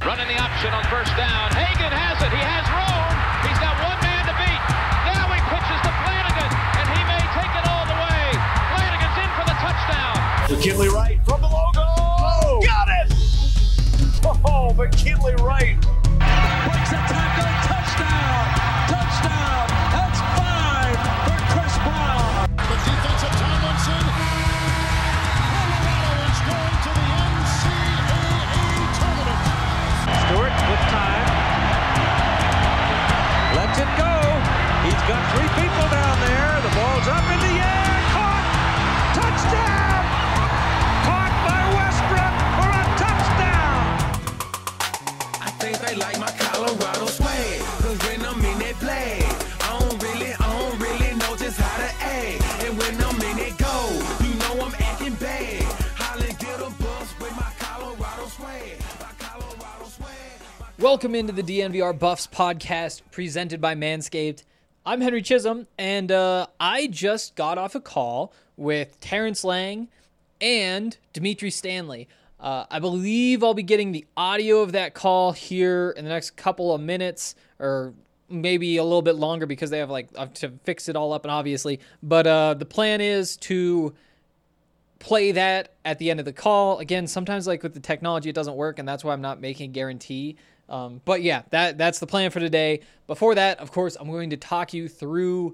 Running the option on first down. Hagan has it. He has room. He's got one man to beat. Now he pitches to Flanagan, and he may take it all the way. Flanagan's in for the touchdown. McKinley Wright from the logo. Oh, got it! Oh, McKinley Wright. Breaks a tackle. Touchdown. Touchdown. That's 5 for Chris Brown. The defensive Tomlinson. Colorado is going to the NCAA tournament. Stewart with time. Lets it go. He's got 3 people down there. The ball's up in the air. Caught. Touchdown. Caught by Westbrook for a touchdown. I think they like my Colorado swag. Cause when I'm in that play, I don't really know just how to act. And when I'm in it go, you know I'm acting bad. Holly get a bus with my Colorado swag. My Colorado swag. Welcome into the DNVR Buffs podcast presented by Manscaped. I'm Henry Chisholm, and I just got off a call with Terrence Lang and Dimitri Stanley. I believe I'll be getting the audio of that call here in the next couple of minutes, or maybe a little bit longer because they have to fix it all up, and obviously. But the plan is to play that at the end of the call. Again, sometimes with the technology it doesn't work, and that's why I'm not making a guarantee. But yeah, that's the plan for today. Before that, of course, I'm going to talk you through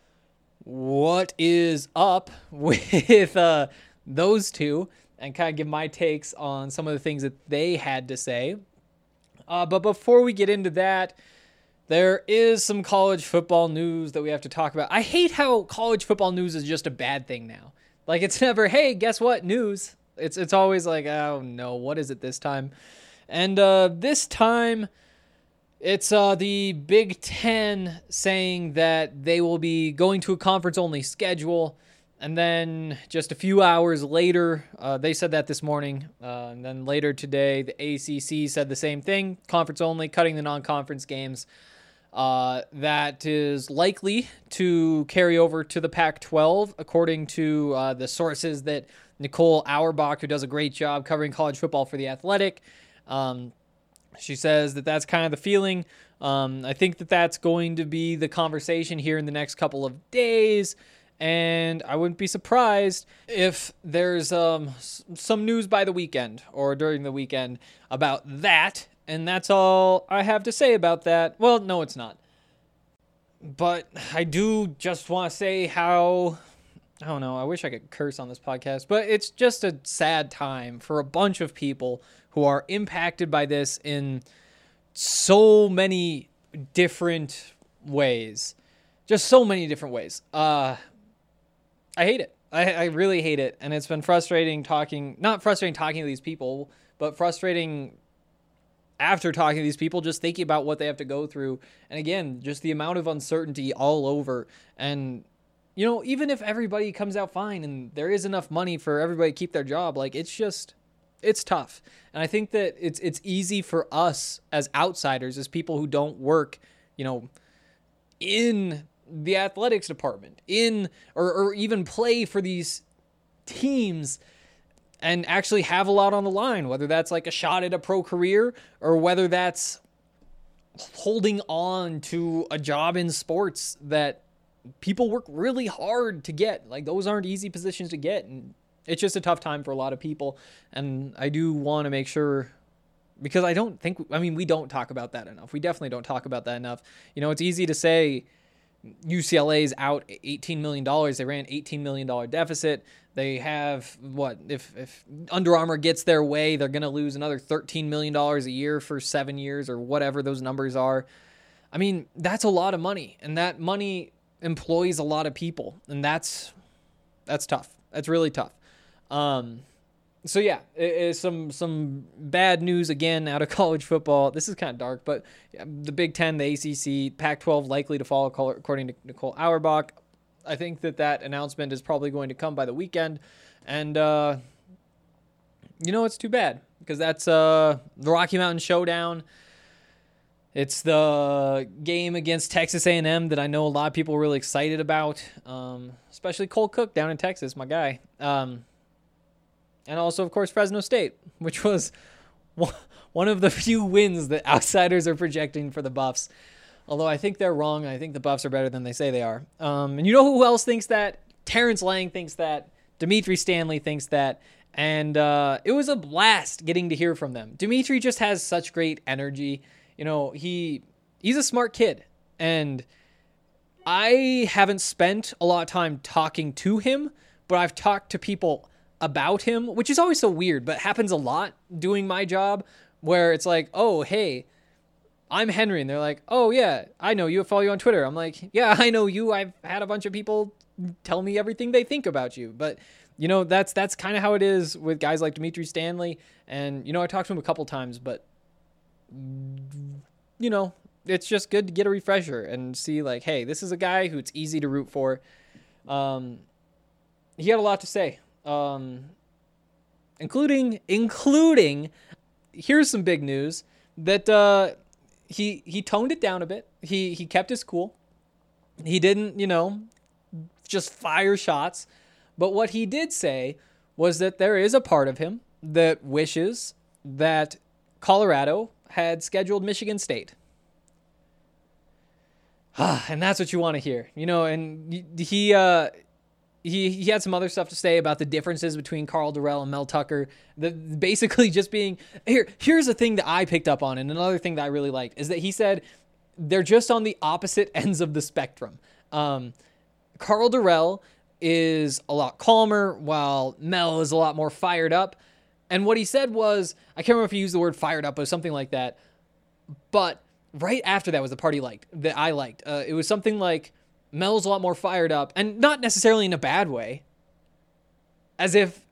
what is up with those two and kind of give my takes on some of the things that they had to say. But before we get into that, there is some college football news that we have to talk about. I hate how college football news is just a bad thing now. It's never, hey, guess what, news. It's always oh no, what is it this time? And this time, it's the Big Ten saying that they will be going to a conference-only schedule. And then just a few hours later, they said that this morning. And then later today, the ACC said the same thing, conference-only, cutting the non-conference games. That is likely to carry over to the Pac-12, according to the sources that Nicole Auerbach, who does a great job covering college football for The Athletic, she says that that's kind of the feeling. I think that that's going to be the conversation here in the next couple of days, and I wouldn't be surprised if there's some news by the weekend or during the weekend about that, and that's all I have to say about that. Well, no, it's not. But I do just want to say how, I don't know, I wish I could curse on this podcast, but it's just a sad time for a bunch of people who are impacted by this in so many different ways. Just so many different ways. I hate it. I really hate it. And it's been frustrating not frustrating talking to these people, but frustrating after talking to these people, just thinking about what they have to go through. And again, just the amount of uncertainty all over. And, even if everybody comes out fine and there is enough money for everybody to keep their job, it's tough. And I think that it's easy for us as outsiders, as people who don't work, in the athletics department, or even play for these teams and actually have a lot on the line, whether that's a shot at a pro career or whether that's holding on to a job in sports that people work really hard to get. Those aren't easy positions to get, and it's just a tough time for a lot of people. And I do want to make sure, because we don't talk about that enough. We definitely don't talk about that enough. It's easy to say UCLA's out $18 million. They ran $18 million deficit. They have, if Under Armour gets their way, they're going to lose another $13 million a year for 7 years or whatever those numbers are. That's a lot of money, and that money employs a lot of people, and that's tough. That's really tough. So yeah, it's some bad news again out of college football. This is kind of dark, but the Big Ten, the ACC, Pac-12 likely to fall according to Nicole Auerbach. I think that announcement is probably going to come by the weekend, and it's too bad because that's the Rocky Mountain Showdown. It's the game against Texas A&M that I know a lot of people are really excited about, especially Cole Cook down in Texas, my guy. And also, of course, Fresno State, which was one of the few wins that outsiders are projecting for the Buffs. Although I think they're wrong. I think the Buffs are better than they say they are. And you know who else thinks that? Terrence Lang thinks that. Dimitri Stanley thinks that. And it was a blast getting to hear from them. Dimitri just has such great energy. You know, he's a smart kid. And I haven't spent a lot of time talking to him, but I've talked to people about him, which is always so weird, but happens a lot doing my job, where it's like, oh, hey, I'm Henry. And they're like, oh, yeah, I know you. I follow you on Twitter. I'm like, yeah, I know you. I've had a bunch of people tell me everything they think about you. But, you know, that's kind of how it is with guys like Dimitri Stanley. And, you know, I talked to him a couple times, but, you know, it's just good to get a refresher and see, like, hey, this is a guy who it's easy to root for. He had a lot to say, including here's some big news that he toned it down a bit. He kept his cool. He didn't, you know, just fire shots. But what he did say was that there is a part of him that wishes that Colorado had scheduled Michigan State. And that's what you want to hear, you know. And he had some other stuff to say about the differences between Carl Durrell and Mel Tucker. Basically just being here's the thing that I picked up on, and another thing that I really liked is that he said they're just on the opposite ends of the spectrum. Carl Durrell is a lot calmer, while Mel is a lot more fired up. And what he said was, I can't remember if he used the word fired up, but something like that. But right after that was the part that I liked. It was something like, Mel's a lot more fired up, and not necessarily in a bad way. As if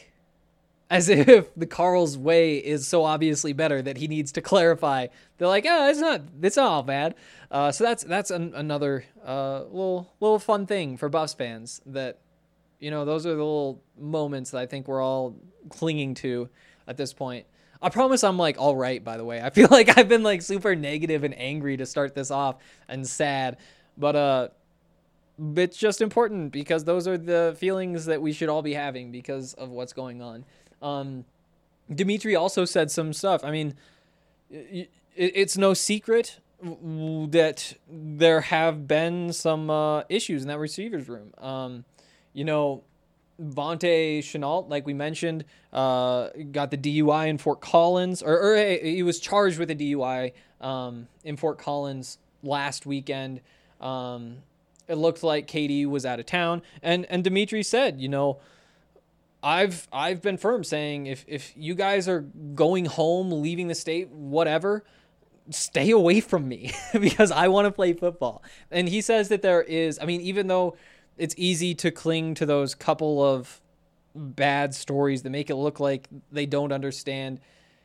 the Carl's way is so obviously better that he needs to clarify. They're like, oh, it's not all bad. So that's another little fun thing for Buffs fans, that, you know, those are the little moments that I think we're all clinging to at this point. I promise I'm like all right, by the way. I feel like I've been like super negative and angry to start this off and sad, but it's just important because those are the feelings that we should all be having because of what's going on. Dimitri also said some stuff. I mean, it's no secret that there have been some issues in that receivers room. You know, Vontae Chenault, like we mentioned, got the DUI in Fort Collins, or he was charged with a DUI in Fort Collins last weekend. It looked like KD was out of town, and Dimitri said, you know, I've been firm saying if you guys are going home, leaving the state, whatever, stay away from me because I want to play football. And he says that there is, I mean, even though it's easy to cling to those couple of bad stories that make it look like they don't understand,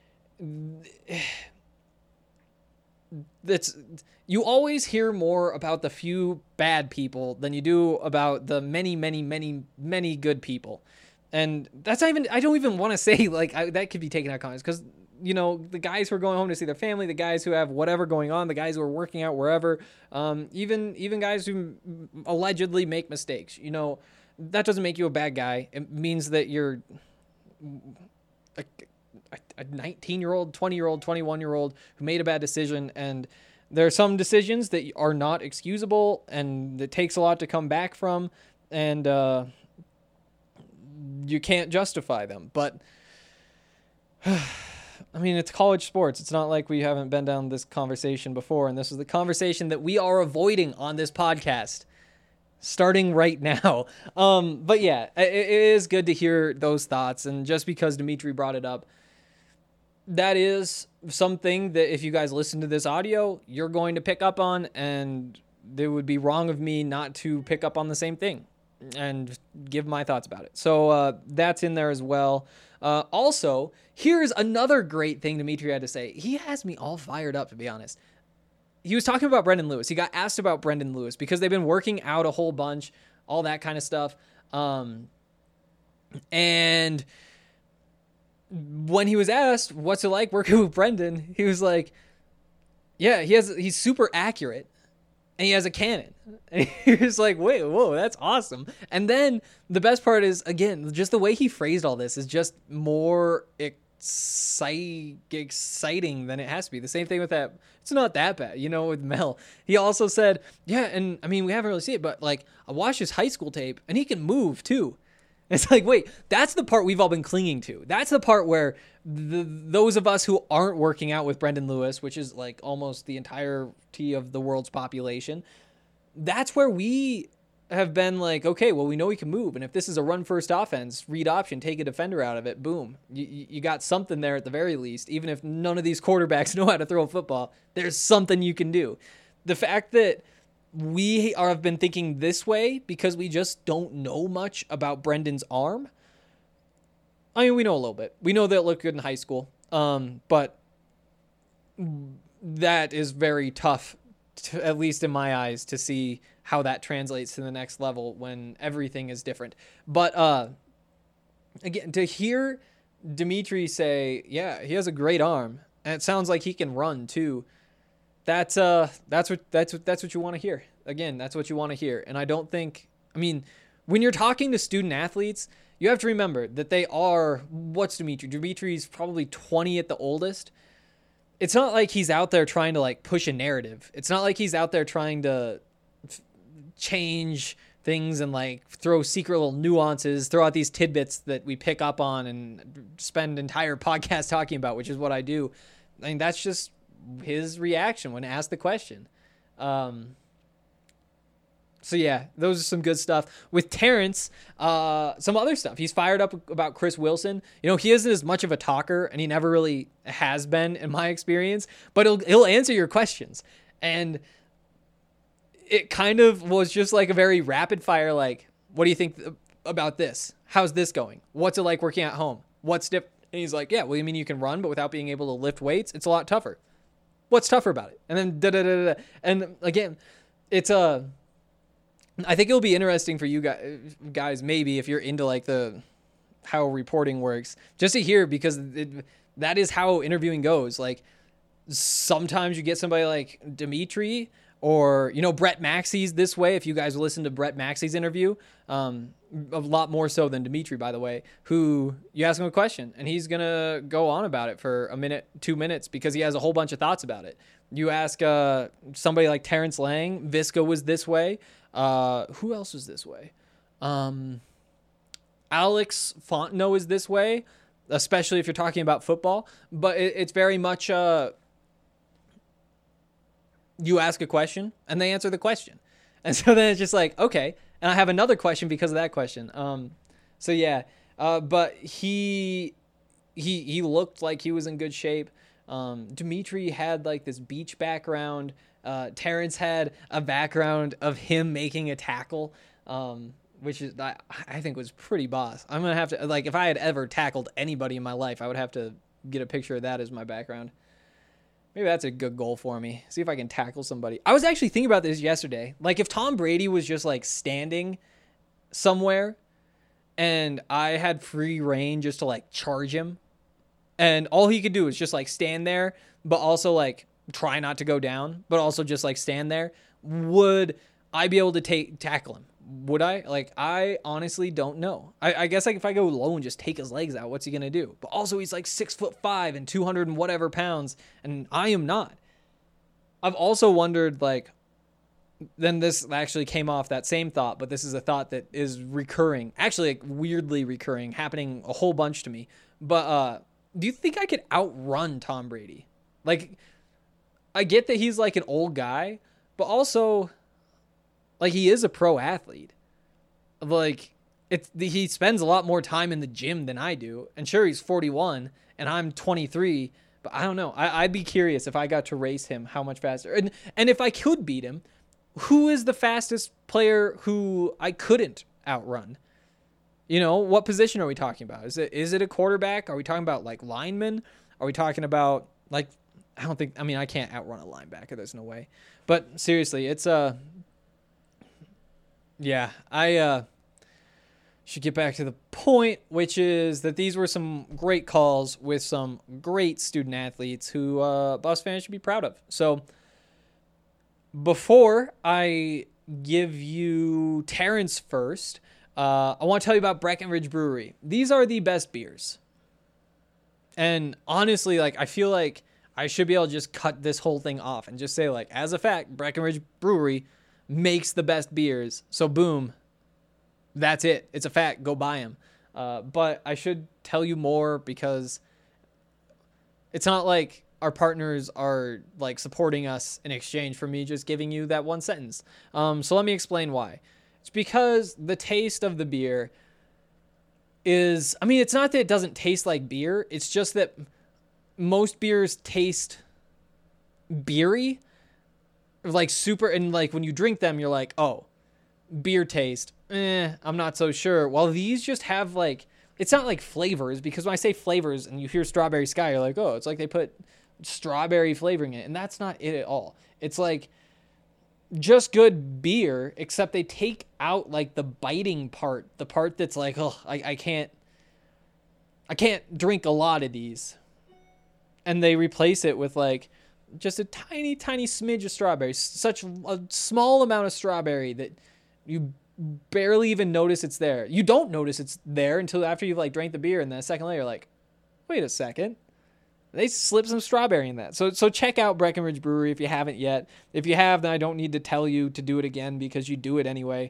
you always hear more about the few bad people than you do about the many, many, many, many good people. And that's not even, I don't even want to say like that could be taken out of context, because, you know, the guys who are going home to see their family, the guys who have whatever going on, the guys who are working out wherever, even guys who allegedly make mistakes, you know, that doesn't make you a bad guy. It means that you're a 19-year-old, 20-year-old, 21-year-old who made a bad decision. And there are some decisions that are not excusable and it takes a lot to come back from. And you can't justify them. But I mean, it's college sports. It's not like we haven't been down this conversation before. And this is the conversation that we are avoiding on this podcast, starting right now. But yeah, it is good to hear those thoughts. And just because Dimitri brought it up, that is something that if you guys listen to this audio, you're going to pick up on, and it would be wrong of me not to pick up on the same thing and give my thoughts about it. So that's in there as well. Also, here's another great thing Dimitri had to say. He has me all fired up, to be honest. He was talking about Brendan Lewis. He got asked about Brendan Lewis because they've been working out a whole bunch, all that kind of stuff. And when he was asked, what's it like working with Brendan? He was like, yeah, he's super accurate and he has a cannon. And he was like, whoa, that's awesome. And then the best part is, again, just the way he phrased all this is just more exciting than it has to be. The same thing with that. It's not that bad, with Mel. He also said, yeah, and I mean, we haven't really seen it, but like I watched his high school tape and he can move too. It's like, wait, that's the part we've all been clinging to. That's the part where those of us who aren't working out with Brendan Lewis, which is like almost the entirety of the world's population, that's where we have been like, okay, well, we know he can move. And if this is a run first offense, read option, take a defender out of it, boom. You got something there at the very least. Even if none of these quarterbacks know how to throw a football, there's something you can do. The fact that we have been thinking this way because we just don't know much about Brendan's arm. I mean, we know a little bit. We know that it looked good in high school, but that is very tough, at least in my eyes, to see how that translates to the next level when everything is different. But again, to hear Dimitri say, yeah, he has a great arm, and it sounds like he can run too. That's what you want to hear. Again, that's what you want to hear. And I don't think, I mean, when you're talking to student athletes, you have to remember that they are, what's Dimitri? Dimitri's probably 20 at the oldest. It's not like he's out there trying to like push a narrative. It's not like he's out there trying to change things and like throw secret little nuances, throw out these tidbits that we pick up on and spend entire podcasts talking about, which is what I do. I mean, that's just his reaction when asked the question. So yeah, those are some good stuff. With Terrence, some other stuff. He's fired up about Chris Wilson. He isn't as much of a talker, and he never really has been in my experience, but he'll answer your questions. And it kind of was just like a very rapid fire, like, what do you think about this? How's this going? What's it like working at home? What's different? And he's like, yeah, well, you mean you can run, but without being able to lift weights, it's a lot tougher. What's tougher about it? And then da-da-da-da-da. And again, it's I think it'll be interesting for you guys, maybe if you're into like how reporting works, just to hear, because that is how interviewing goes. Like sometimes you get somebody like Dimitri or, Brett Maxey's this way. If you guys listen to Brett Maxey's interview, a lot more so than Dimitri, by the way, who you ask him a question and he's going to go on about it for a minute, 2 minutes, because he has a whole bunch of thoughts about it. You ask somebody like Terrence Lang, Visca was this way. Who else was this way? Alex Fontenot is this way, especially if you're talking about football. But it's very much you ask a question and they answer the question. And so then it's just like, okay. And I have another question because of that question. So yeah. But he looked like he was in good shape. Dimitri had like this beach background. Terrence had a background of him making a tackle, which is, I think was pretty boss. I'm going to have to, like, if I had ever tackled anybody in my life, I would have to get a picture of that as my background. Maybe that's a good goal for me. See if I can tackle somebody. I was actually thinking about this yesterday. Like if Tom Brady was just like standing somewhere and I had free reign just to like charge him, and all he could do is just like stand there, but also like try not to go down, but also just like stand there, would I be able to tackle him? Would I? Like, I honestly don't know. I guess like if I go low and just take his legs out, what's he gonna do? But also he's like 6'5" and 200 and whatever pounds, and I am not. I've also wondered, like, then this actually came off that same thought, but this is a thought that is recurring, actually like weirdly recurring, happening a whole bunch to me. But do you think I could outrun Tom Brady? Like, I get that he's like an old guy, but also like he is a pro athlete. Like he spends a lot more time in the gym than I do. And sure, he's 41 and I'm 23, but I don't know. I'd be curious if I got to race him, how much faster. And if I could beat him, who is the fastest player who I couldn't outrun? What position are we talking about? Is it a quarterback? Are we talking about like linemen? Are we talking about like, I can't outrun a linebacker. There's no way. But seriously, it's yeah, I should get back to the point, which is that these were some great calls with some great student athletes who Buffs fans should be proud of. So before I give you Terrence first, I want to tell you about Breckenridge Brewery. These are the best beers. And honestly, like, I feel like I should be able to just cut this whole thing off and just say, like, as a fact, Breckenridge Brewery makes the best beers. So boom, that's it. It's a fact. Go buy them. But I should tell you more because it's not like our partners are like supporting us in exchange for me just giving you that one sentence. So let me explain why. It's because the taste of the beer is, I mean, it's not that it doesn't taste like beer. It's just that most beers taste beery, like super, and like when you drink them, you're like, oh, beer taste. I'm not so sure. While these just have like, it's not like flavors, because when I say flavors and you hear Strawberry Sky, you're like, oh, it's like they put strawberry flavoring in it. And that's not it at all. It's like just good beer, except they take out like the biting part, the part that's like, oh, I can't drink a lot of these. And they replace it with like just a tiny, tiny smidge of strawberry, such a small amount of strawberry that you barely even notice it's there. You don't notice it's there until after you've like drank the beer, and then a second later, you're like, wait a second, they slipped some strawberry in that. So check out Breckenridge Brewery if you haven't yet. If you have, then I don't need to tell you to do it again because you do it anyway.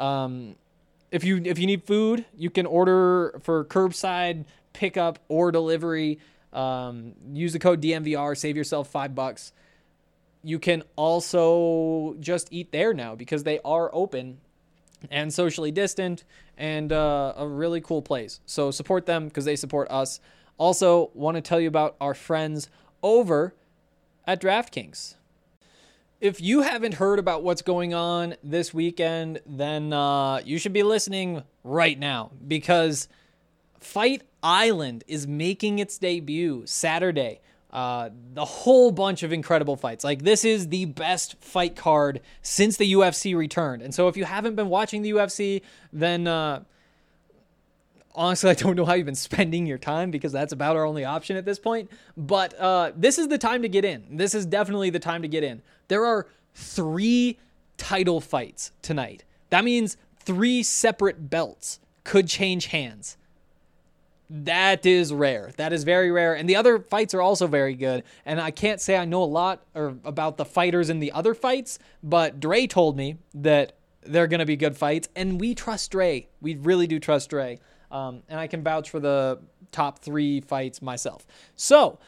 If you need food, you can order for curbside pickup or delivery. Use the code DMVR, save yourself $5. You can also just eat there now because they are open and socially distant, and a really cool place. So support them because they support us. Also, want to tell you about our friends over at DraftKings. If you haven't heard about what's going on this weekend, then you should be listening right now, because Fight Island is making its debut Saturday. The whole bunch of incredible fights. Like, this is the best fight card since the UFC returned. And so if you haven't been watching the UFC, then honestly, I don't know how you've been spending your time, because that's about our only option at this point. But this is the time to get in. This is definitely the time to get in. There are 3 title fights tonight. That means 3 separate belts could change hands. That is rare. That is very rare. And the other fights are also very good. And I can't say I know a lot about the fighters in the other fights, but Dre told me that they're going to be good fights. And we trust Dre. We really do trust Dre. And I can vouch for the top 3 fights myself. So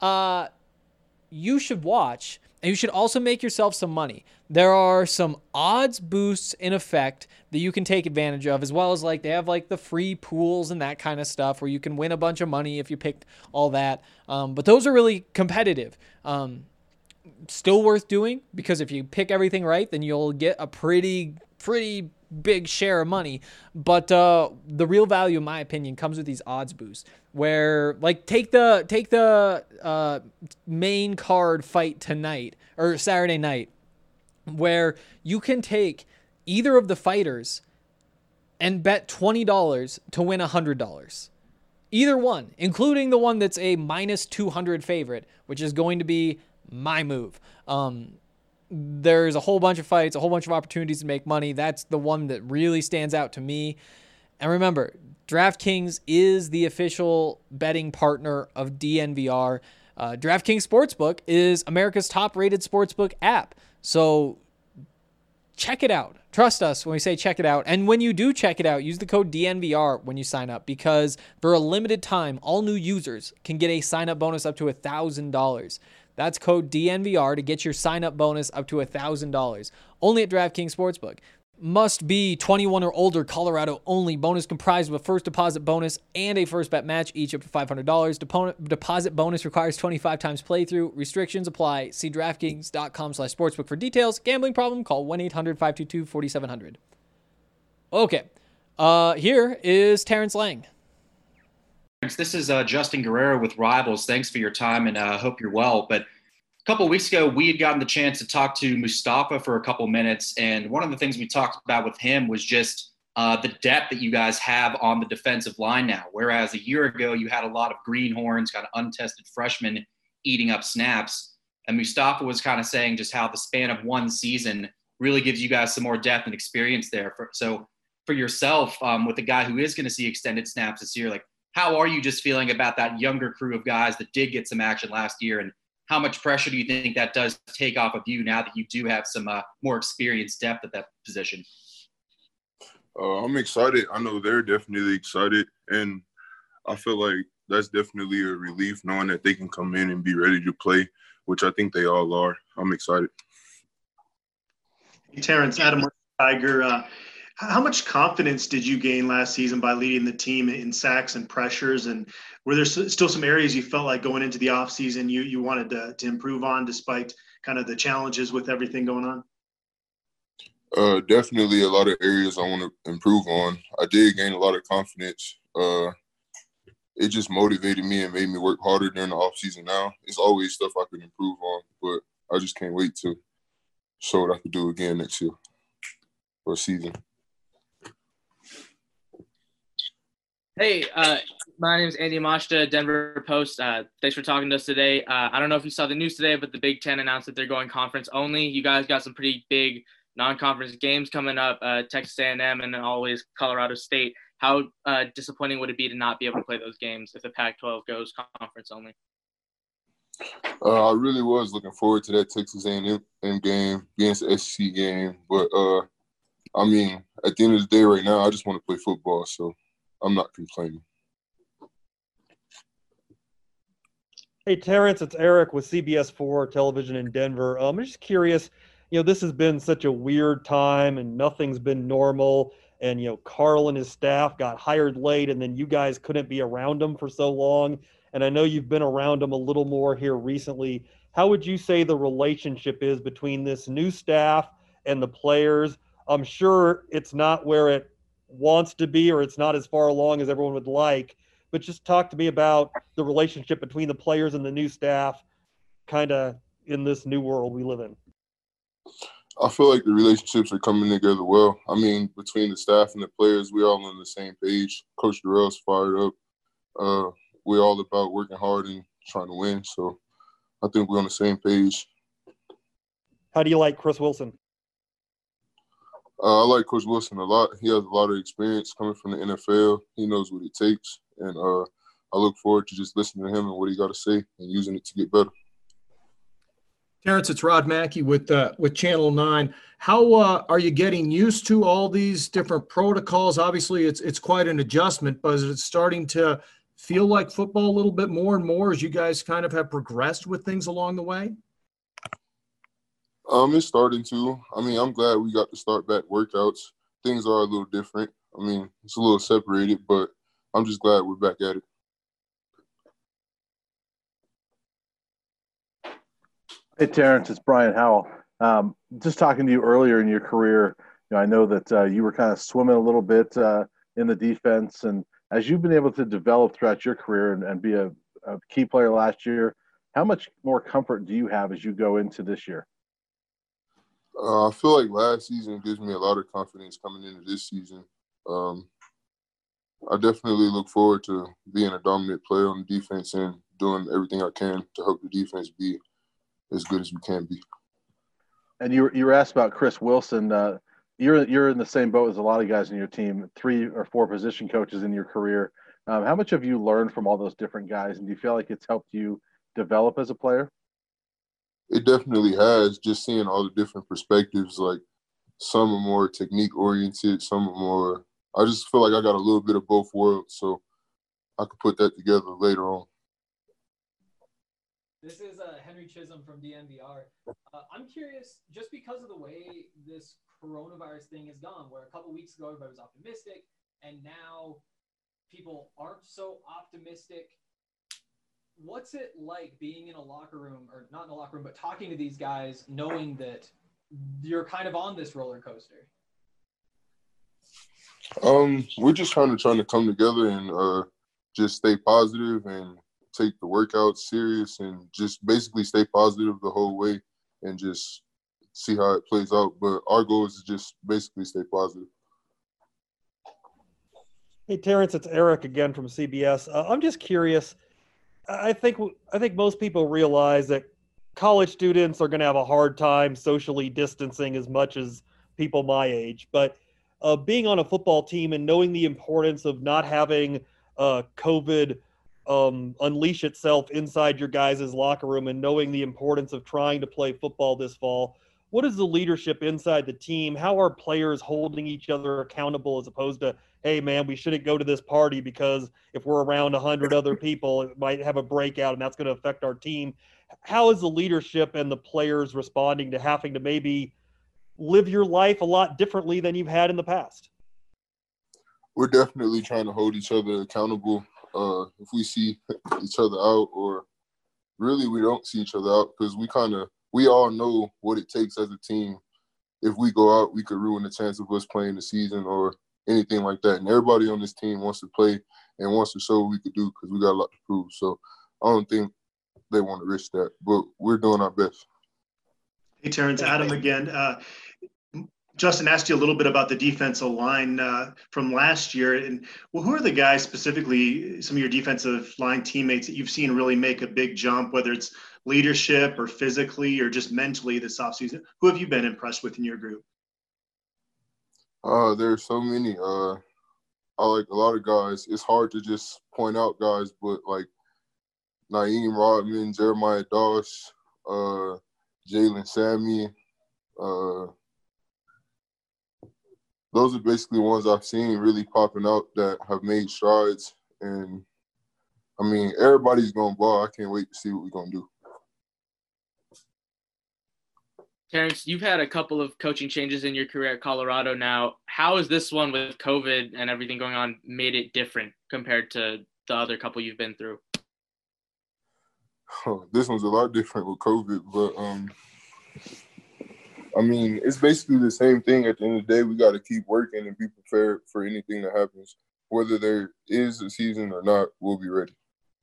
you should watch, and you should also make yourself some money. There are some odds boosts in effect that you can take advantage of, as well as like they have like the free pools and that kind of stuff where you can win a bunch of money if you picked all that. But those are really competitive. Still worth doing, because if you pick everything right, then you'll get a pretty big share of money. But the real value, in my opinion, comes with these odds boosts, where like take the main card fight tonight or Saturday night, where you can take either of the fighters and bet $20 to win $100. Either one, including the one that's a minus 200 favorite, which is going to be my move. There's a whole bunch of fights, a whole bunch of opportunities to make money. That's the one that really stands out to me. And remember, DraftKings is the official betting partner of DNVR. DraftKings Sportsbook is America's top-rated sportsbook app. So check it out. Trust us when we say check it out. And when you do check it out, use the code DNVR when you sign up, because for a limited time, all new users can get a sign-up bonus up to $1,000. That's code DNVR to get your sign-up bonus up to $1,000. Only at DraftKings Sportsbook. Must be 21 or older, Colorado only. Bonus comprised of a first deposit bonus and a first bet match, each up to $500. Deposit bonus requires 25 times playthrough. Restrictions apply. See DraftKings.com/sportsbook for details. Gambling problem? Call 1-800-522-4700. Okay. Here is Terrence Lang. This is Justin Guerrero with Rivals. Thanks for your time, and I hope you're well. But a couple of weeks ago, we had gotten the chance to talk to Mustafa for a couple of minutes, and one of the things we talked about with him was just the depth that you guys have on the defensive line now. Whereas a year ago, you had a lot of greenhorns, kind of untested freshmen eating up snaps. And Mustafa was kind of saying just how the span of one season really gives you guys some more depth and experience there. So for yourself, with a guy who is going to see extended snaps this year, like, how are you just feeling about that younger crew of guys that did get some action last year, and how much pressure do you think that does take off of you now that you do have some more experienced depth at that position? I'm excited. I know they're definitely excited, and I feel like that's definitely a relief knowing that they can come in and be ready to play, which I think they all are. I'm excited. Terrence, Adam Tiger, how much confidence did you gain last season by leading the team in sacks and pressures? And were there still some areas you felt like going into the offseason you wanted to improve on despite kind of the challenges with everything going on? Definitely a lot of areas I want to improve on. I did gain a lot of confidence. It just motivated me and made me work harder during the offseason now. It's always stuff I could improve on, but I just can't wait to show what I could do again next year or season. Hey, my name is Andy Mashta, Denver Post. Thanks for talking to us today. I don't know if you saw the news today, but the Big Ten announced that they're going conference only. You guys got some pretty big non-conference games coming up, Texas A&M and then always Colorado State. How disappointing would it be to not be able to play those games if the Pac-12 goes conference only? I really was looking forward to that Texas A&M game, being an SEC game. But, I mean, at the end of the day right now, I just want to play football, so I'm not complaining. Hey, Terrence, it's Eric with CBS 4 Television in Denver. I'm just curious, this has been such a weird time and nothing's been normal. And, Carl and his staff got hired late and then you guys couldn't be around them for so long. And I know you've been around them a little more here recently. How would you say the relationship is between this new staff and the players? I'm sure it's not where it wants to be or it's not as far along as everyone would like, but just talk to me about the relationship between the players and the new staff kind of in this new world we live in. I feel like the relationships are coming together well. I mean, between the staff and the players, we're all on the same page. Coach Durrell's fired up. We're all about working hard and trying to win. So I think we're on the same page. How do you like Chris Wilson? I like Coach Wilson a lot. He has a lot of experience coming from the NFL. He knows what it takes. And I look forward to just listening to him and what he got to say and using it to get better. Terrence, it's Rod Mackey with Channel 9. How are you getting used to all these different protocols? Obviously, it's quite an adjustment, but is it starting to feel like football a little bit more and more as you guys kind of have progressed with things along the way? It's starting to. I mean, I'm glad we got to start back workouts. Things are a little different. I mean, it's a little separated, but I'm just glad we're back at it. Hey, Terrence, it's Brian Howell. Just talking to you earlier in your career, I know that you were kind of swimming a little bit in the defense. And as you've been able to develop throughout your career and be a key player last year, how much more comfort do you have as you go into this year? I feel like last season gives me a lot of confidence coming into this season. I definitely look forward to being a dominant player on the defense and doing everything I can to help the defense be as good as we can be. And you were asked about Chris Wilson. You're in the same boat as a lot of guys in your team, 3 or 4 position coaches in your career. How much have you learned from all those different guys, and do you feel like it's helped you develop as a player? It definitely has, just seeing all the different perspectives. Like, some are more technique-oriented, some are more – I just feel like I got a little bit of both worlds, so I could put that together later on. This is Henry Chisholm from DNVR. I'm curious, just because of the way this coronavirus thing has gone, where a couple weeks ago everybody was optimistic, and now people aren't so optimistic. What's it like being in a locker room, or not in a locker room, but talking to these guys, knowing that you're kind of on this roller coaster? We're just trying to come together and just stay positive and take the workouts serious and just basically stay positive the whole way and just see how it plays out. But our goal is to just basically stay positive. Hey, Terrence, it's Eric again from CBS. I'm just curious. I think most people realize that college students are going to have a hard time socially distancing as much as people my age. But being on a football team and knowing the importance of not having COVID unleash itself inside your guys' locker room and knowing the importance of trying to play football this fall. What is the leadership inside the team? How are players holding each other accountable as opposed to, hey, man, we shouldn't go to this party because if we're around 100 other people, it might have a breakout and that's going to affect our team. How is the leadership and the players responding to having to maybe live your life a lot differently than you've had in the past? We're definitely trying to hold each other accountable. If we see each other out, or really we don't see each other out, because we all know what it takes as a team. If we go out, we could ruin the chance of us playing the season or anything like that. And everybody on this team wants to play and wants to show what we could do because we got a lot to prove. So I don't think they want to risk that, but we're doing our best. Hey, Terrence, Adam again. Justin asked you a little bit about the defensive line from last year. And well, who are the guys specifically, some of your defensive line teammates that you've seen really make a big jump, whether it's leadership or physically or just mentally this offseason? Who have you been impressed with in your group? There's so many. I like a lot of guys. It's hard to just point out guys, but like Naeem Rodman, Jeremiah Doss, Jalen Sammy, those are basically ones I've seen really popping out that have made strides. And, I mean, everybody's going to ball. I can't wait to see what we're going to do. Terrence, you've had a couple of coaching changes in your career at Colorado now. How has this one with COVID and everything going on made it different compared to the other couple you've been through? This one's a lot different with COVID, but I mean, it's basically the same thing. At the end of the day, we got to keep working and be prepared for anything that happens. Whether there is a season or not, we'll be ready.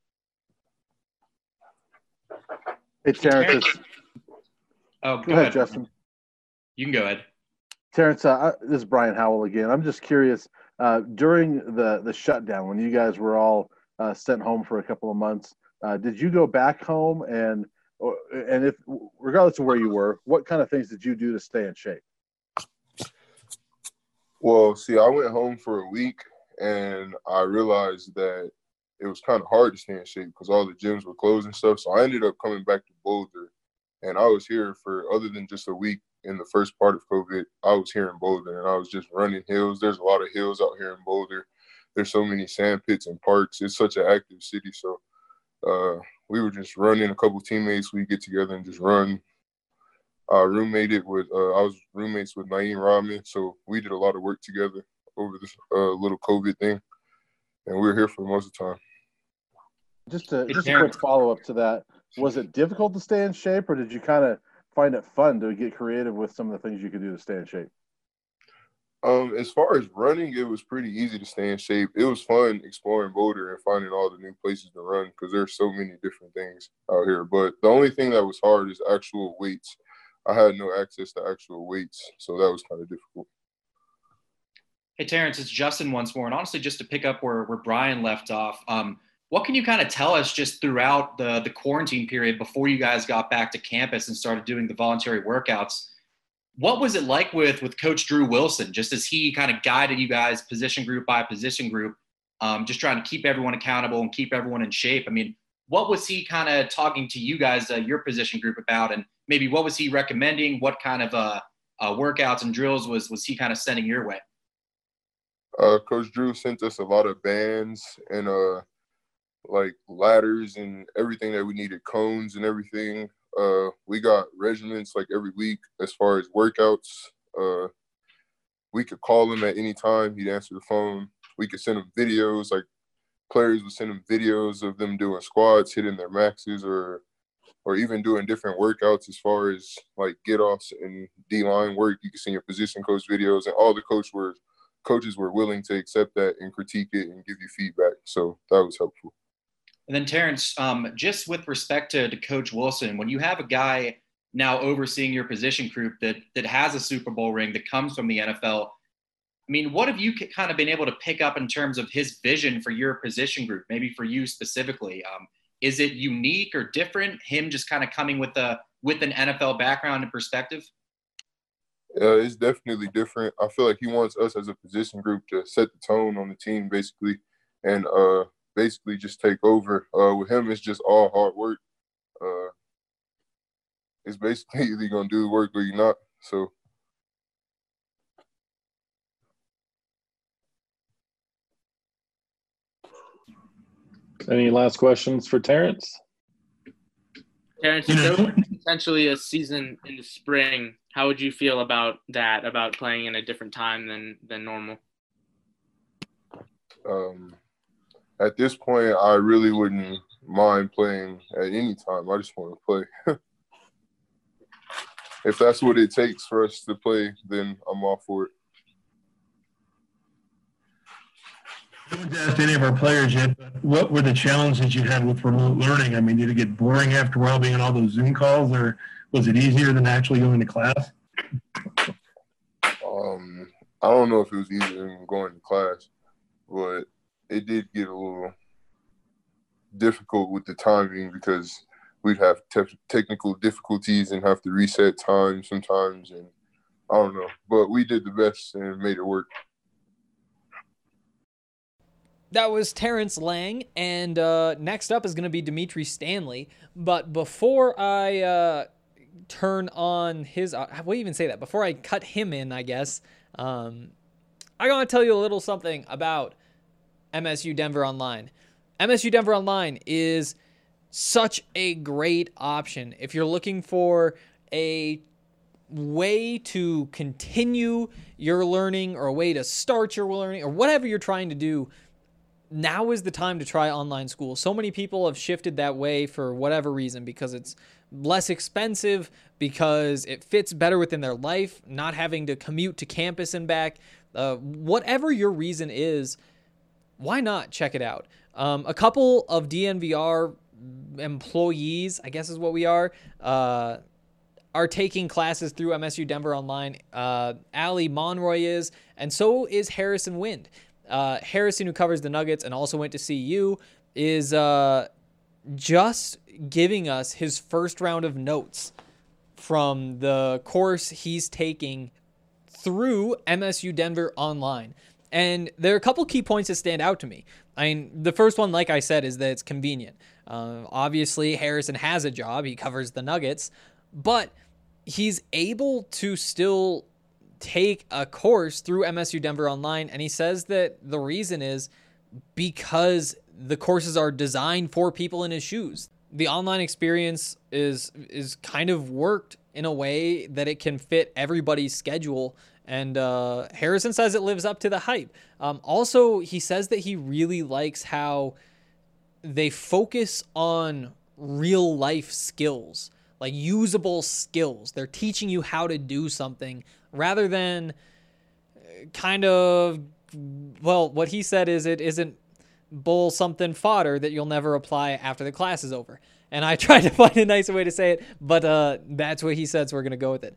Hey, Terrence. Go ahead, Justin. You can go ahead. Terrence, this is Brian Howell again. I'm just curious, during the shutdown, when you guys were all sent home for a couple of months, did you go back home and if, regardless of where you were, what kind of things did you do to stay in shape? Well, see, I went home for a week, and I realized that it was kind of hard to stay in shape because all the gyms were closed and stuff. So I ended up coming back to Boulder, and I was here for, other than just a week in the first part of COVID, I was here in Boulder, and I was just running hills. There's a lot of hills out here in Boulder. There's so many sand pits and parks. It's such an active city, so we were just running. A couple teammates, we get together and just run. I was roommates with Naeem Rodman, so we did a lot of work together over this little COVID thing, and we were here for most of the time. Just a quick follow-up to that. Was it difficult to stay in shape, or did you kind of find it fun to get creative with some of the things you could do to stay in shape? As far as running, it was pretty easy to stay in shape. It was fun exploring Boulder and finding all the new places to run because there's so many different things out here. But the only thing that was hard is actual weights. I had no access to actual weights, so that was kind of difficult. Hey, Terrence, it's Justin once more. And honestly, just to pick up where Brian left off, what can you kind of tell us just throughout the quarantine period before you guys got back to campus and started doing the voluntary workouts? What was it like with Coach Drew Wilson, just as he kind of guided you guys position group by position group, just trying to keep everyone accountable and keep everyone in shape? I mean, what was he kind of talking to you guys, your position group about, and maybe what was he recommending? What kind of workouts and drills was he kind of sending your way? Coach Drew sent us a lot of bands and like ladders and everything that we needed, cones and everything. We got regiments like every week as far as workouts. We could call him at any time. He'd answer the phone. We could send him videos, like players would send him videos of them doing squats, hitting their maxes, or even doing different workouts as far as like get-offs and D-line work. You can see your position coach videos, and all the coaches were willing to accept that and critique it and give you feedback. So that was helpful. And then Terrence, just with respect to Coach Wilson, when you have a guy now overseeing your position group that has a Super Bowl ring, that comes from the NFL, I mean, what have you kind of been able to pick up in terms of his vision for your position group, maybe for you specifically? Is it unique or different, him just kind of coming with an NFL background and perspective? It's definitely different. I feel like he wants us as a position group to set the tone on the team, basically, and basically just take over. With him, it's just all hard work. It's basically either you're gonna do the work or you're not. So. Any last questions for Terrence? Terrence, if there was potentially a season in the spring, how would you feel about that, about playing in a different time than normal? At this point, I really wouldn't mind playing at any time. I just want to play. If that's what it takes for us to play, then I'm all for it. I haven't asked any of our players yet, but what were the challenges you had with remote learning? I mean, did it get boring after a while being on all those Zoom calls, or was it easier than actually going to class? I don't know if it was easier than going to class, but it did get a little difficult with the timing because we'd have technical difficulties and have to reset time sometimes, and I don't know. But we did the best and made it work. That was Terrence Lang, and next up is going to be Dimitri Stanley. But before I turn on his, what do you even say that? Before I cut him in, I guess, I'm going to tell you a little something about MSU Denver Online. MSU Denver Online is such a great option if you're looking for a way to continue your learning or a way to start your learning or whatever you're trying to do. Now is the time to try online school. So many people have shifted that way for whatever reason, because it's less expensive, because it fits better within their life, not having to commute to campus and back. Whatever your reason is, why not check it out? A couple of DNVR employees, I guess is what we are taking classes through MSU Denver Online. Ali Monroy is, and so is Harrison Wind. Harrison, who covers the Nuggets and also went to CU, is just giving us his first round of notes from the course he's taking through MSU Denver Online. And there are a couple key points that stand out to me. I mean, the first one, like I said, is that it's convenient. Obviously, Harrison has a job. He covers the Nuggets. But he's able to still take a course through MSU Denver Online, and he says that the reason is because the courses are designed for people in his shoes. The online experience is kind of worked in a way that it can fit everybody's schedule, and Harrison says it lives up to the hype. Also, he says that he really likes how they focus on real life skills, like usable skills. They're teaching you how to do something rather than kind of, well, what he said is it isn't bull something fodder that you'll never apply after the class is over. And I tried to find a nicer way to say it, but that's what he said, so we're going to go with it.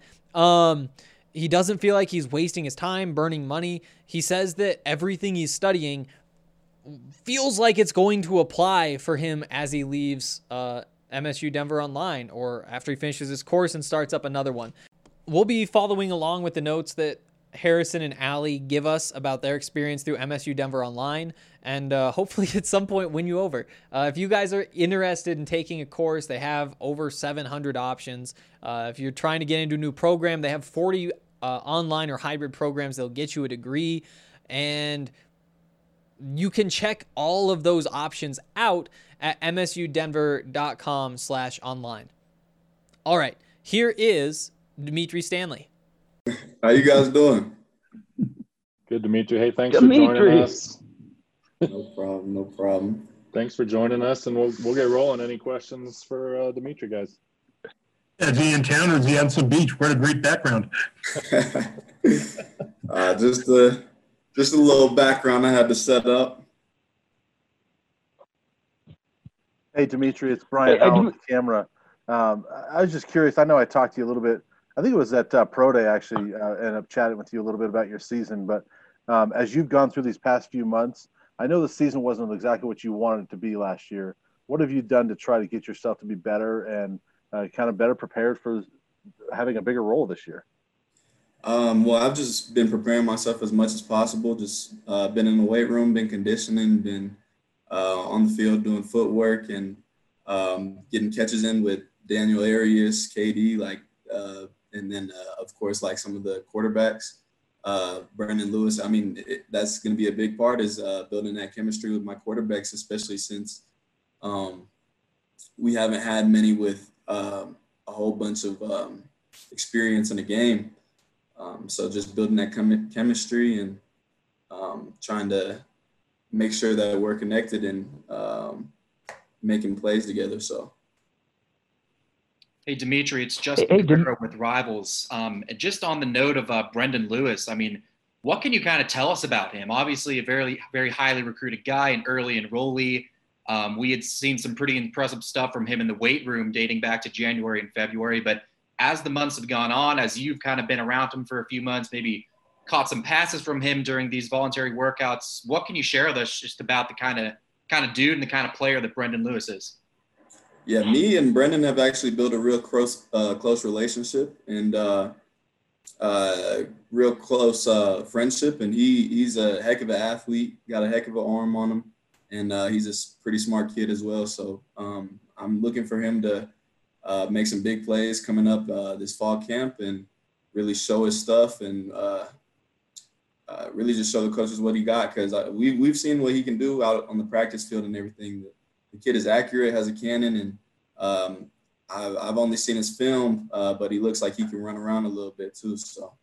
He doesn't feel like he's wasting his time, burning money. He says that everything he's studying feels like it's going to apply for him as he leaves MSU Denver Online or after he finishes his course and starts up another one. We'll be following along with the notes that Harrison and Ali give us about their experience through MSU Denver Online, and hopefully at some point win you over. If you guys are interested in taking a course, they have over 700 options. If you're trying to get into a new program, they have 40 online or hybrid programs that'll get you a degree, and you can check all of those options out at msudenver.com/online. All right, here is Dimitri Stanley. How you guys doing? Good, Dimitri. Hey, thanks for joining us. No problem. Thanks for joining us, and we'll get rolling. Any questions for Dimitri, guys? Is he in town or is he on some beach? What a great background. Just a little background I had to set up. Hey, Dimitri, it's Brian Howell on the camera. I was just curious. I know I talked to you a little bit. I think it was at Pro Day, actually, ended up chatting with you a little bit about your season. But as you've gone through these past few months, I know the season wasn't exactly what you wanted it to be last year. What have you done to try to get yourself to be better and kind of better prepared for having a bigger role this year? Well, I've just been preparing myself as much as possible. Just been in the weight room, been conditioning, been on the field doing footwork and getting catches in with Daniel Arias, KD, and then of course like some of the quarterbacks, Brandon Lewis. I mean, that's going to be a big part is building that chemistry with my quarterbacks, especially since we haven't had many with a whole bunch of experience in the game. So just building that chemistry and trying to make sure that we're connected and making plays together. So. Hey, Dimitri, it's Justin Guerrero with Rivals. Just on the note of Brendan Lewis, I mean, what can you kind of tell us about him? Obviously, a very, very highly recruited guy, an early enrollee. We had seen some pretty impressive stuff from him in the weight room dating back to January and February. But as the months have gone on, as you've kind of been around him for a few months, maybe caught some passes from him during these voluntary workouts, what can you share with us just about the kind of dude and the kind of player that Brendan Lewis is? Yeah, me and Brendan have actually built a real close relationship and real close friendship. And he's a heck of an athlete, got a heck of an arm on him, and he's a pretty smart kid as well. So I'm looking for him to make some big plays coming up this fall camp and really show his stuff and really just show the coaches what he got, because we've seen what he can do out on the practice field and everything. The kid is accurate, has a cannon, and I've only seen his film, but he looks like he can run around a little bit too. So.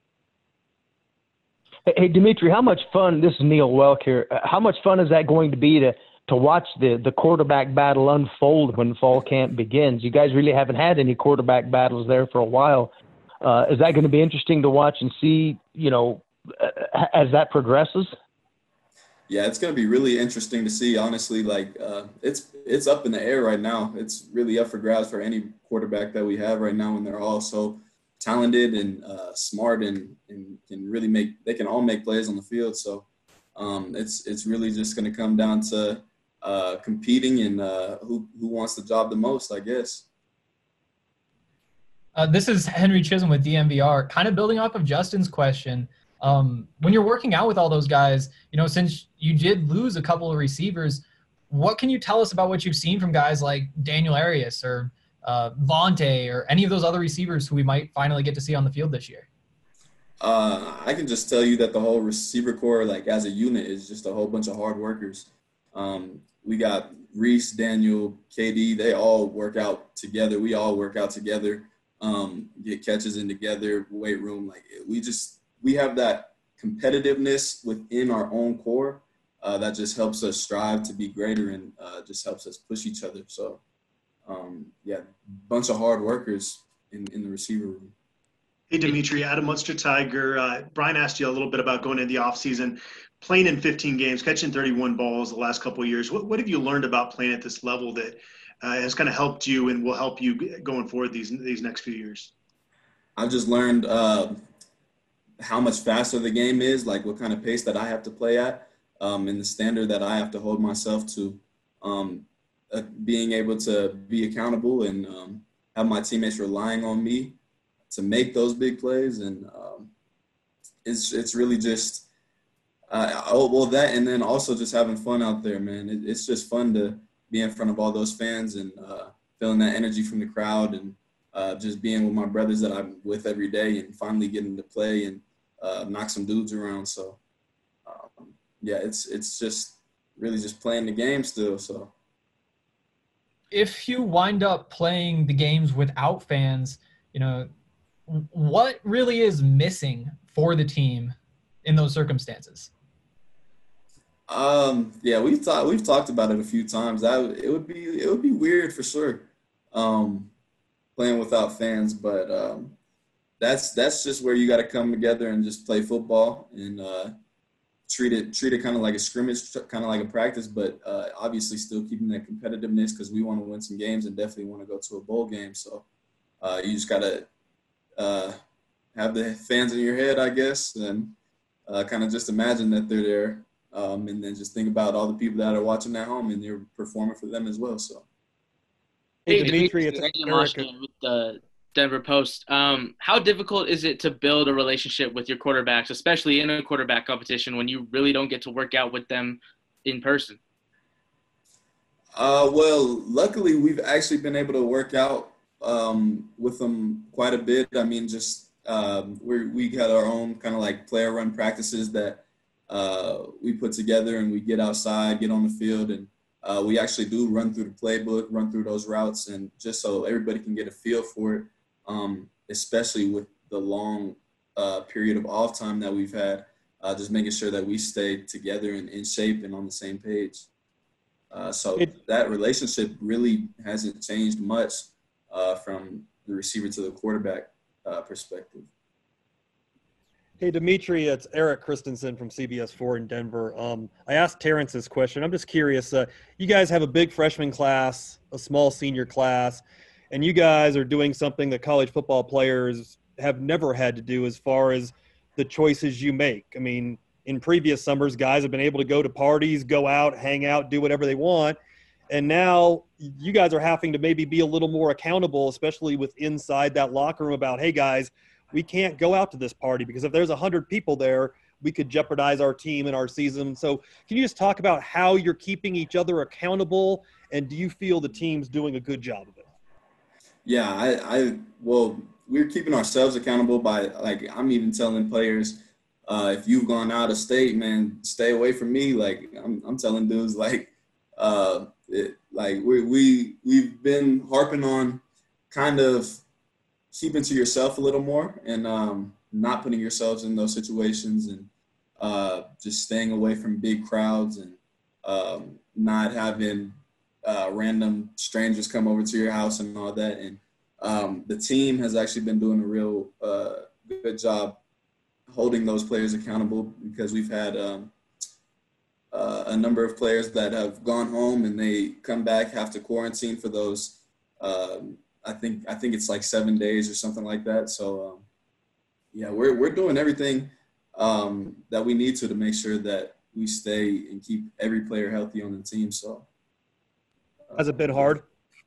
Hey, Dimitri, how much fun, this is Neil Welk here, how much fun is that going to be to watch the quarterback battle unfold when fall camp begins? You guys really haven't had any quarterback battles there for a while. Is that going to be interesting to watch and see, as that progresses? Yeah, it's going to be really interesting to see, honestly. It's up in the air right now. It's really up for grabs for any quarterback that we have right now, and they're all so talented and smart and can really they can all make plays on the field. So it's really just going to come down to competing and who wants the job the most, I guess. This is Henry Chisholm with DMVR, kind of building off of Justin's question. When you're working out with all those guys, since you did lose a couple of receivers, what can you tell us about what you've seen from guys like Daniel Arias or Vontae or any of those other receivers who we might finally get to see on the field this year? I can just tell you that the whole receiver core, as a unit, is just a whole bunch of hard workers. We got Reese, Daniel, KD, they all work out together. We all work out together, get catches in together, weight room. We have that competitiveness within our own core that just helps us strive to be greater and just helps us push each other. So, bunch of hard workers in the receiver room. Hey, Dimitri, Adam Munster Tiger. Brian asked you a little bit about going into the offseason, playing in 15 games, catching 31 balls the last couple of years. What have you learned about playing at this level that has kind of helped you and will help you going forward these next few years? I've just learned how much faster the game is, what kind of pace that I have to play at, and the standard that I have to hold myself to, being able to be accountable and have my teammates relying on me to make those big plays. And it's really just that, and then also just having fun out there, man. It's just fun to be in front of all those fans and feeling that energy from the crowd and just being with my brothers that I'm with every day and finally getting to play and knock some dudes around. So, it's just really just playing the game still. So, if you wind up playing the games without fans, what really is missing for the team in those circumstances? We've talked about it a few times. It would be weird for sure, playing without fans. But that's just where you got to come together and just play football and treat it kind of like a scrimmage, kind of like a practice. But obviously still keeping that competitiveness because we want to win some games and definitely want to go to a bowl game. So you just gotta have the fans in your head, I guess, and kind of just imagine that they're there. And then just think about all the people that are watching at home and you're performing for them as well. So, hey, Dimitri, it's Eric with the Denver Post. How difficult is it to build a relationship with your quarterbacks, especially in a quarterback competition when you really don't get to work out with them in person? Well, luckily we've actually been able to work out with them quite a bit. I mean, just we got our own kind of like player run practices that we put together, and we get outside, get on the field, and we actually do run through the playbook, run through those routes, and just so everybody can get a feel for it, especially with the long period of off time that we've had, just making sure that we stay together and in shape and on the same page. So that relationship really hasn't changed much from the receiver to the quarterback perspective. Hey, Dimitri, it's Eric Christensen from CBS 4 in Denver. I asked Terrence this question. I'm just curious. You guys have a big freshman class, a small senior class, and you guys are doing something that college football players have never had to do as far as the choices you make. I mean, in previous summers, guys have been able to go to parties, go out, hang out, do whatever they want. And now you guys are having to maybe be a little more accountable, especially with inside that locker room about, hey, guys, we can't go out to this party because if there's 100 people there, we could jeopardize our team and our season. So can you just talk about how you're keeping each other accountable, and do you feel the team's doing a good job of it? Yeah, well, we're keeping ourselves accountable by, like, I'm even telling players, if you've gone out of state, man, stay away from me. Like, I'm telling dudes, like, we've been harping on kind of keeping to yourself a little more and not putting yourselves in those situations, and just staying away from big crowds, and not having random strangers come over to your house and all that. And the team has actually been doing a real good job holding those players accountable, because we've had a number of players that have gone home and they come back, have to quarantine for those I think it's like 7 days or something like that. So yeah, we're doing everything that we need to make sure that we stay and keep every player healthy on the team. So has it been hard?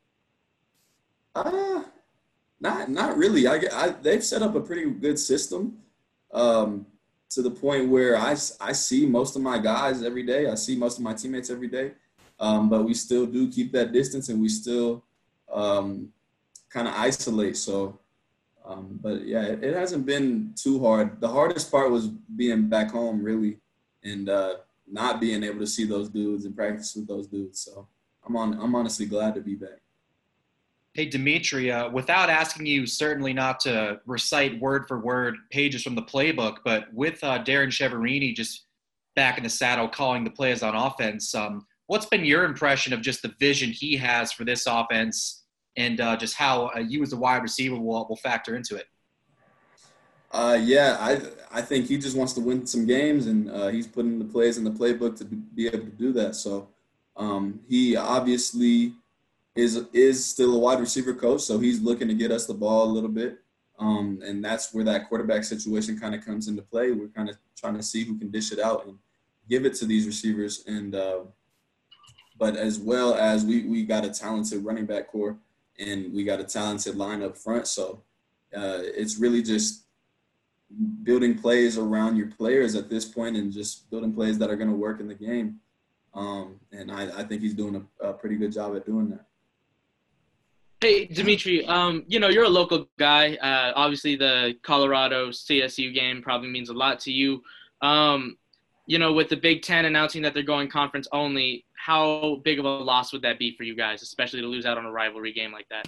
Not really. They've set up a pretty good system to the point where I see most of my guys every day. I see most of my teammates every day, but we still do keep that distance, and we still kind of isolate. So, but yeah, it hasn't been too hard. The hardest part was being back home, really, and not being able to see those dudes and practice with those dudes. So I'm honestly glad to be back. Hey, Dimitri, without asking you certainly not to recite word for word pages from the playbook, but with Darren Chiaverini just back in the saddle calling the plays on offense, what's been your impression of just the vision he has for this offense, and just how you as a wide receiver will factor into it? Yeah, I think he just wants to win some games, and he's putting the plays in the playbook to be able to do that. So he obviously is still a wide receiver coach, so he's looking to get us the ball a little bit. And that's where that quarterback situation kind of comes into play. We're kind of trying to see who can dish it out and give it to these receivers. And but as well as we got a talented running back core, and we got a talented line up front. So it's really just building plays around your players at this point, and just building plays that are going to work in the game. And I think he's doing a pretty good job at doing that. Hey, Dimitri, you're a local guy. Obviously, the Colorado CSU game probably means a lot to you. With the Big Ten announcing that they're going conference only, how big of a loss would that be for you guys, especially to lose out on a rivalry game like that?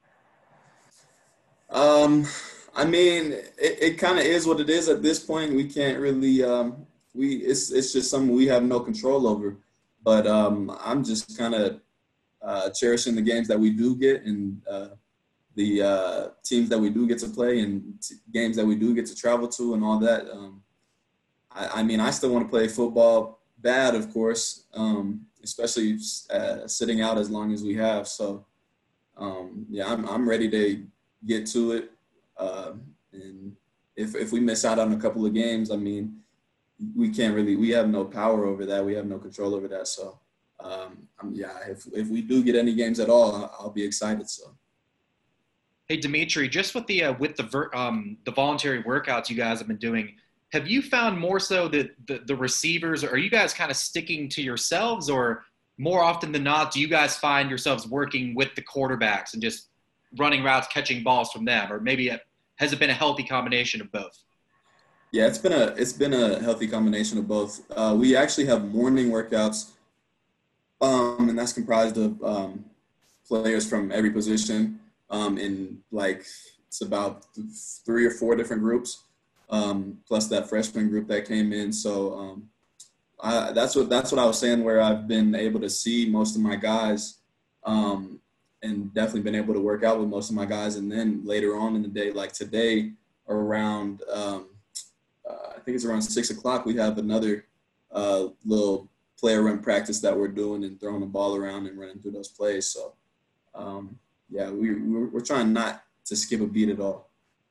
I mean, it kind of is what it is at this point. We can't really it's just something we have no control over. But I'm just kind of cherishing the games that we do get, and the teams that we do get to play, and games that we do get to travel to, and all that. I mean, I still want to play football bad, of course, especially sitting out as long as we have. So, yeah, I'm ready to get to it. And if we miss out on a couple of games, I mean, we have no power over that. We have no control over that. So, yeah, if we do get any games at all, I'll be excited. So. Hey, Dimitri, just with the voluntary workouts you guys have been doing, have you found more so that the receivers, are you guys kind of sticking to yourselves, or more often than not, do you guys find yourselves working with the quarterbacks and just running routes, catching balls from them, or maybe has it been a healthy combination of both? Yeah, it's been a healthy combination of both. We actually have morning workouts, and that's comprised of players from every position. In like it's about 3 or 4 different groups, plus that freshman group that came in. So that's what I was saying, where I've been able to see most of my guys, and definitely been able to work out with most of my guys. And then later on in the day, like today, around I think it's around 6 o'clock, we have another little player run practice that we're doing and throwing the ball around and running through those plays. So. Yeah, we're trying not to skip a beat at all.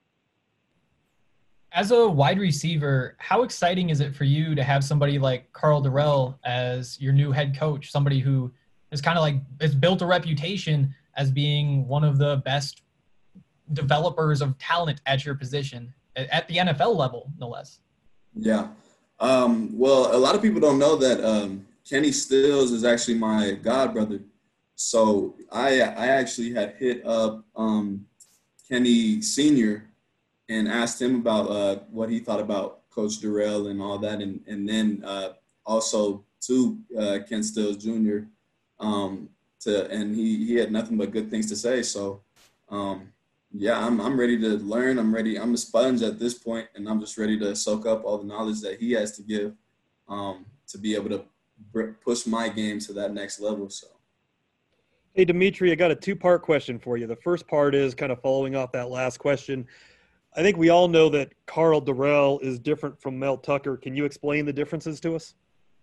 As a wide receiver, how exciting is it for you to have somebody like Karl Dorrell as your new head coach, somebody who is kind of like has built a reputation as being one of the best developers of talent at your position, at the NFL level, no less? Yeah. Well, a lot of people don't know that Kenny Stills is actually my god brother. So I actually had hit up Kenny Sr. and asked him about what he thought about Coach Dorrell and all that, and then also to Ken Stills Jr. And he had nothing but good things to say. So yeah, I'm ready to learn. I'm a sponge at this point, and I'm just ready to soak up all the knowledge that he has to give to be able to push my game to that next level. So. Hey, Dimitri, I got a 2-part question for you. The first part is kind of following off that last question. I think we all know that Karl Dorrell is different from Mel Tucker. Can you explain the differences to us?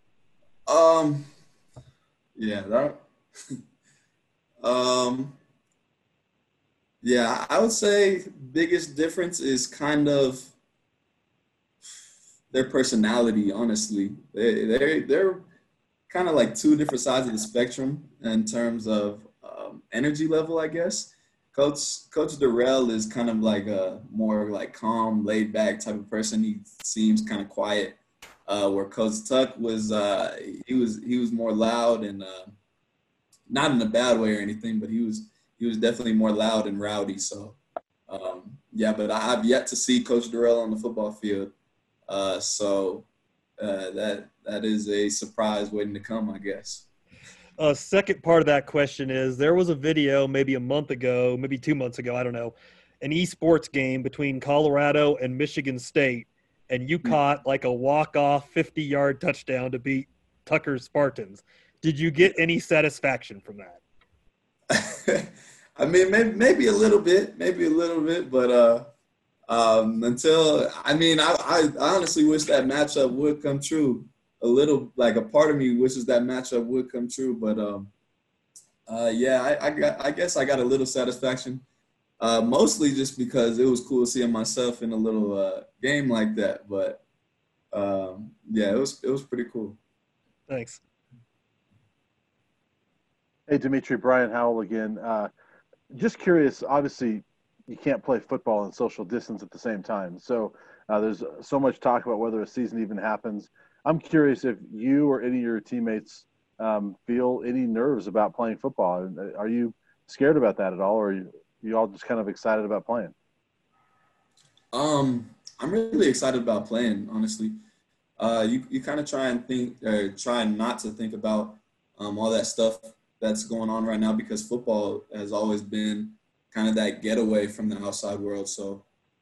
Yeah, yeah, I would say biggest difference is kind of their personality, honestly. They're kind of like 2 different sides of the spectrum in terms of energy level, I guess. Coach Dorrell is kind of like a more like calm, laid back type of person. He seems kind of quiet. Where Coach Tuck was, he was more loud and not in a bad way or anything, but he was definitely more loud and rowdy. So yeah, but I've yet to see Coach Dorrell on the football field. So that is a surprise waiting to come, I guess. Second part of that question is, there was a video maybe a month ago, maybe 2 months ago, I don't know, an esports game between Colorado and Michigan State, and you caught like a walk-off 50-yard touchdown to beat Tucker's Spartans. Did you get any satisfaction from that? I mean, maybe a little bit, but until, I mean, I honestly wish that matchup would come true. A little, like a part of me wishes that matchup would come true, but yeah, I guess I got a little satisfaction, mostly just because it was cool seeing myself in a little game like that. But yeah, it was pretty cool. Thanks. Hey, Dimitri, Brian Howell again. Just curious, obviously you can't play football and social distance at the same time. So there's so much talk about whether a season even happens. I'm curious if you or any of your teammates feel any nerves about playing football. Are you scared about that at all, or are you all just kind of excited about playing? I'm really excited about playing, honestly. You kind of try not to think about all that stuff that's going on right now, because football has always been kind of that getaway from the outside world. So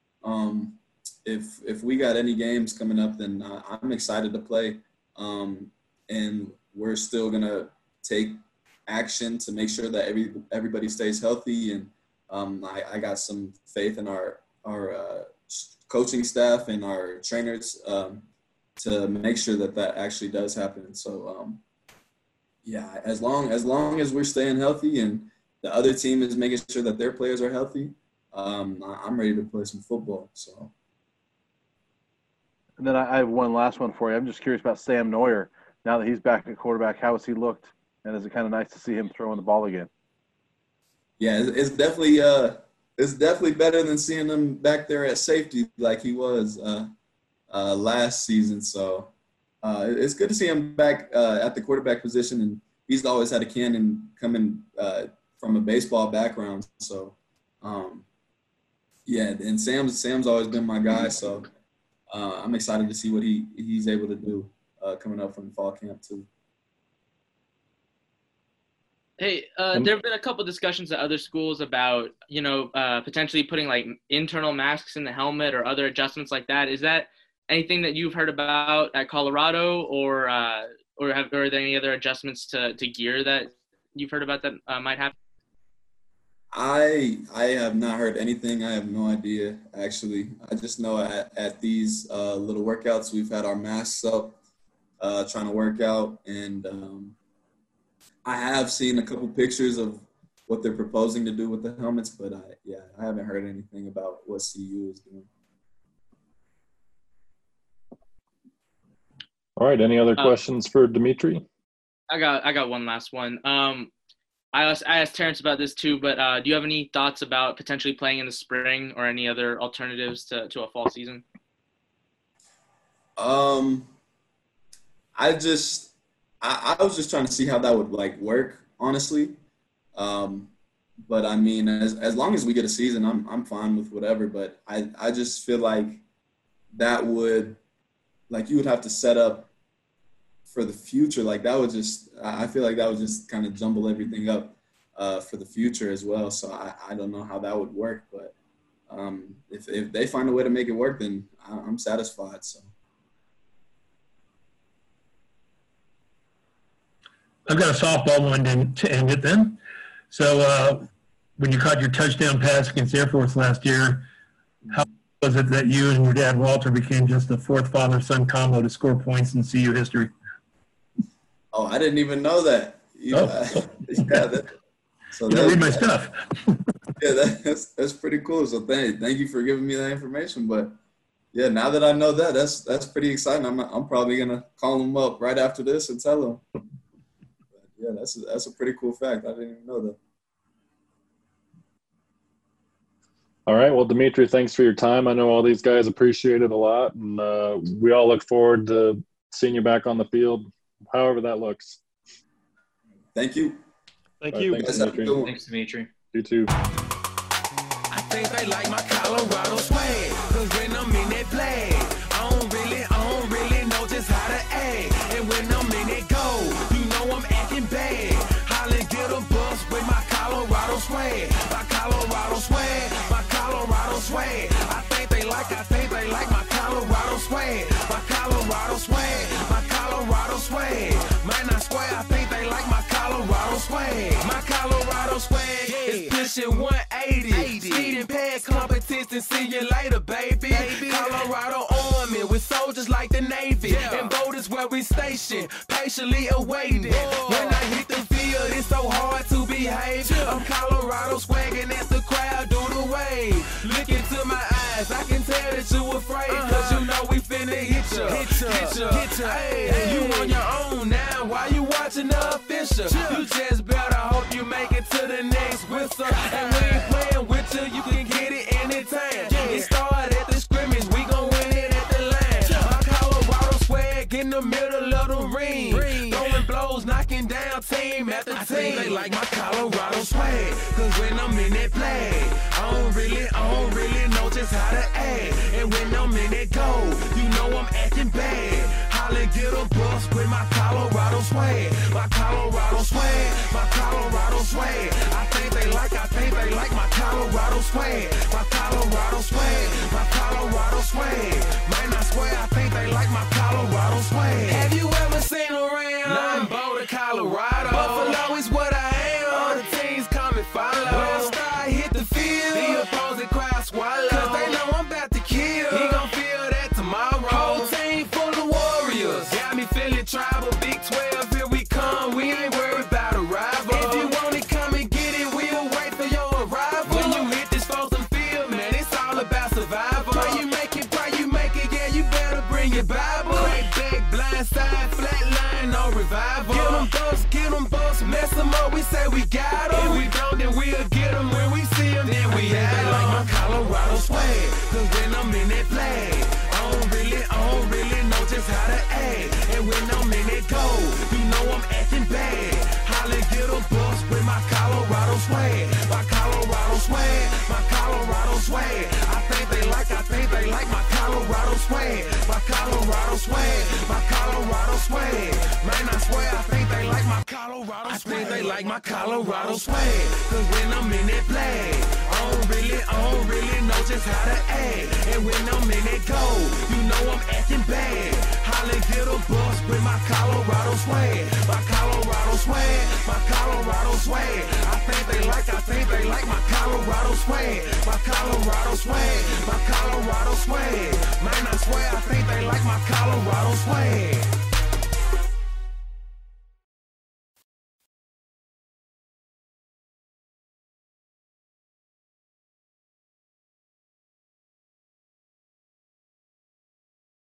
if we got any games coming up, then I'm excited to play. And we're still going to take action to make sure that everybody stays healthy. And I got some faith in our coaching staff and our trainers to make sure that actually does happen. So, yeah, as long as we're staying healthy and the other team is making sure that their players are healthy, I'm ready to play some football. So. And then I have one last one for you. I'm just curious about Sam Neuer. Now that he's back at quarterback, how has he looked? And is it kind of nice to see him throwing the ball again? Yeah, it's definitely it's definitely better than seeing him back there at safety like he was last season. So it's good to see him back at the quarterback position, and he's always had a cannon coming from a baseball background. So, yeah, and Sam's always been my guy. So I'm excited to see what he's able to do coming up from fall camp too. Hey, there have been a couple discussions at other schools about, potentially putting like internal masks in the helmet or other adjustments like that. Is that anything that you've heard about at Colorado, or are there any other adjustments to gear that you've heard about that might happen? I have not heard anything. I have no idea, actually. I just know at these little workouts, we've had our masks up trying to work out, and I have seen a couple pictures of what they're proposing to do with the helmets, but I haven't heard anything about what CU is doing. All right. Any other questions for Dimitri? I got one last one. I asked Terrence about this too, but do you have any thoughts about potentially playing in the spring or any other alternatives to a fall season? I was just trying to see how that would work, honestly. But I mean, as long as we get a season, I'm fine with whatever. But I just feel like that would, you would have to set up for the future. I feel like that would just kind of jumble everything up for the future as well. So I don't know how that would work. But if they find a way to make it work, then I'm satisfied. So. I've got a softball one to end it then. So when you caught your touchdown pass against Air Force last year, how was it that you and your dad, Walter, became just the fourth father-son combo to score points in CU history? Oh, I didn't even know that. So you read my stuff. Yeah, that's pretty cool. So thank you for giving me that information. But yeah, now that I know that, that's pretty exciting. I'm probably gonna call him up right after this and tell him. Yeah, that's a pretty cool fact. I didn't even know that. All right. Well, Dimitri, thanks for your time. I know all these guys appreciate it a lot, and we all look forward to seeing you back on the field, however that looks. Thank you. Thank you. Thanks, Dimitri. Thanks, Dimitri. You too. I think they like my Colorado swag, 'cause when I'm in that flag, I don't really know just how to act. And when I'm in that goal, you know I'm acting bad. Holla, get a bus with my Colorado swag. My Colorado swag, my Colorado swag. I think they like my Colorado swag. My Colorado swag, my Colorado swag. Might not swear, I think they like my Colorado swag. My Colorado swag is pushing 180. Speeding past competition, see you later, baby. Colorado Army with soldiers like the Navy. And boat is where we station, patiently awaiting. When I hit the field, it's so hard to behave. I'm Colorado swagging as the crowd do the wave. Look into my eyes, I can tell that you afraid. 'Cause you know we finna hit ya. Hey, you on your own now, why you watching the official? You just better hope you make it to the next whistle. And we ain't playing with you, you can get it anytime. It started at the scrimmage, we gon' win it at the line. My Colorado swag in the middle of the ring. Throwing blows, knocking down team after team. I think they like my Colorado swag, 'cause when I'm in that flag, I don't really know just how to act. And when I'm in that goal, you know I'm acting bad. Holla, get a bus with my Colorado swag. My Colorado swag, my Colorado swag. I think they like my Colorado swag. My Colorado swag, my Colorado swag. Might not swear, I think they like my Colorado swag. Have you ever seen around? I'm Boulder, Colorado. Buffalo is what I am. All the teams come and follow. When I start hit the field, the opposing crowd swallow. 'Cause they know I'm about to kill. He gon' feel that tomorrow. Whole team full of warriors. Got me feeling tribal. Big 12, here we come. We ain't worried about a rival. If you want it, come and get it. We'll wait for your arrival. When you hit this Folsom field, man, it's all about survival. Pray you make it, yeah, you better bring your Bible. Crack back, blind side, flat line, no revival. Give them thumbs, get them bust, mess them up, we say we got them. If we don't, then we'll get them when we see them, then we had them. Like my Colorado swag, cause when I'm in that flag, I don't really know just how to act. And when I'm in that goal, you know I'm acting bad. Holly get a bus with my Colorado swag. My Colorado swag, my Colorado swag. I think they like my Colorado swag. My Colorado swag, my Colorado swag. Man, I swear I think they like my Colorado swag. I think they like my Colorado swag. Cause when I'm in that flag, I don't really know just how to act. And when I'm in that goal, you know I'm acting bad. Holly get a bus with my Colorado swag. My Colorado swag, my Colorado swag. I think they like my Colorado swag. My Colorado swag, my Colorado swag. Man, I swear I think they like my Colorado swag.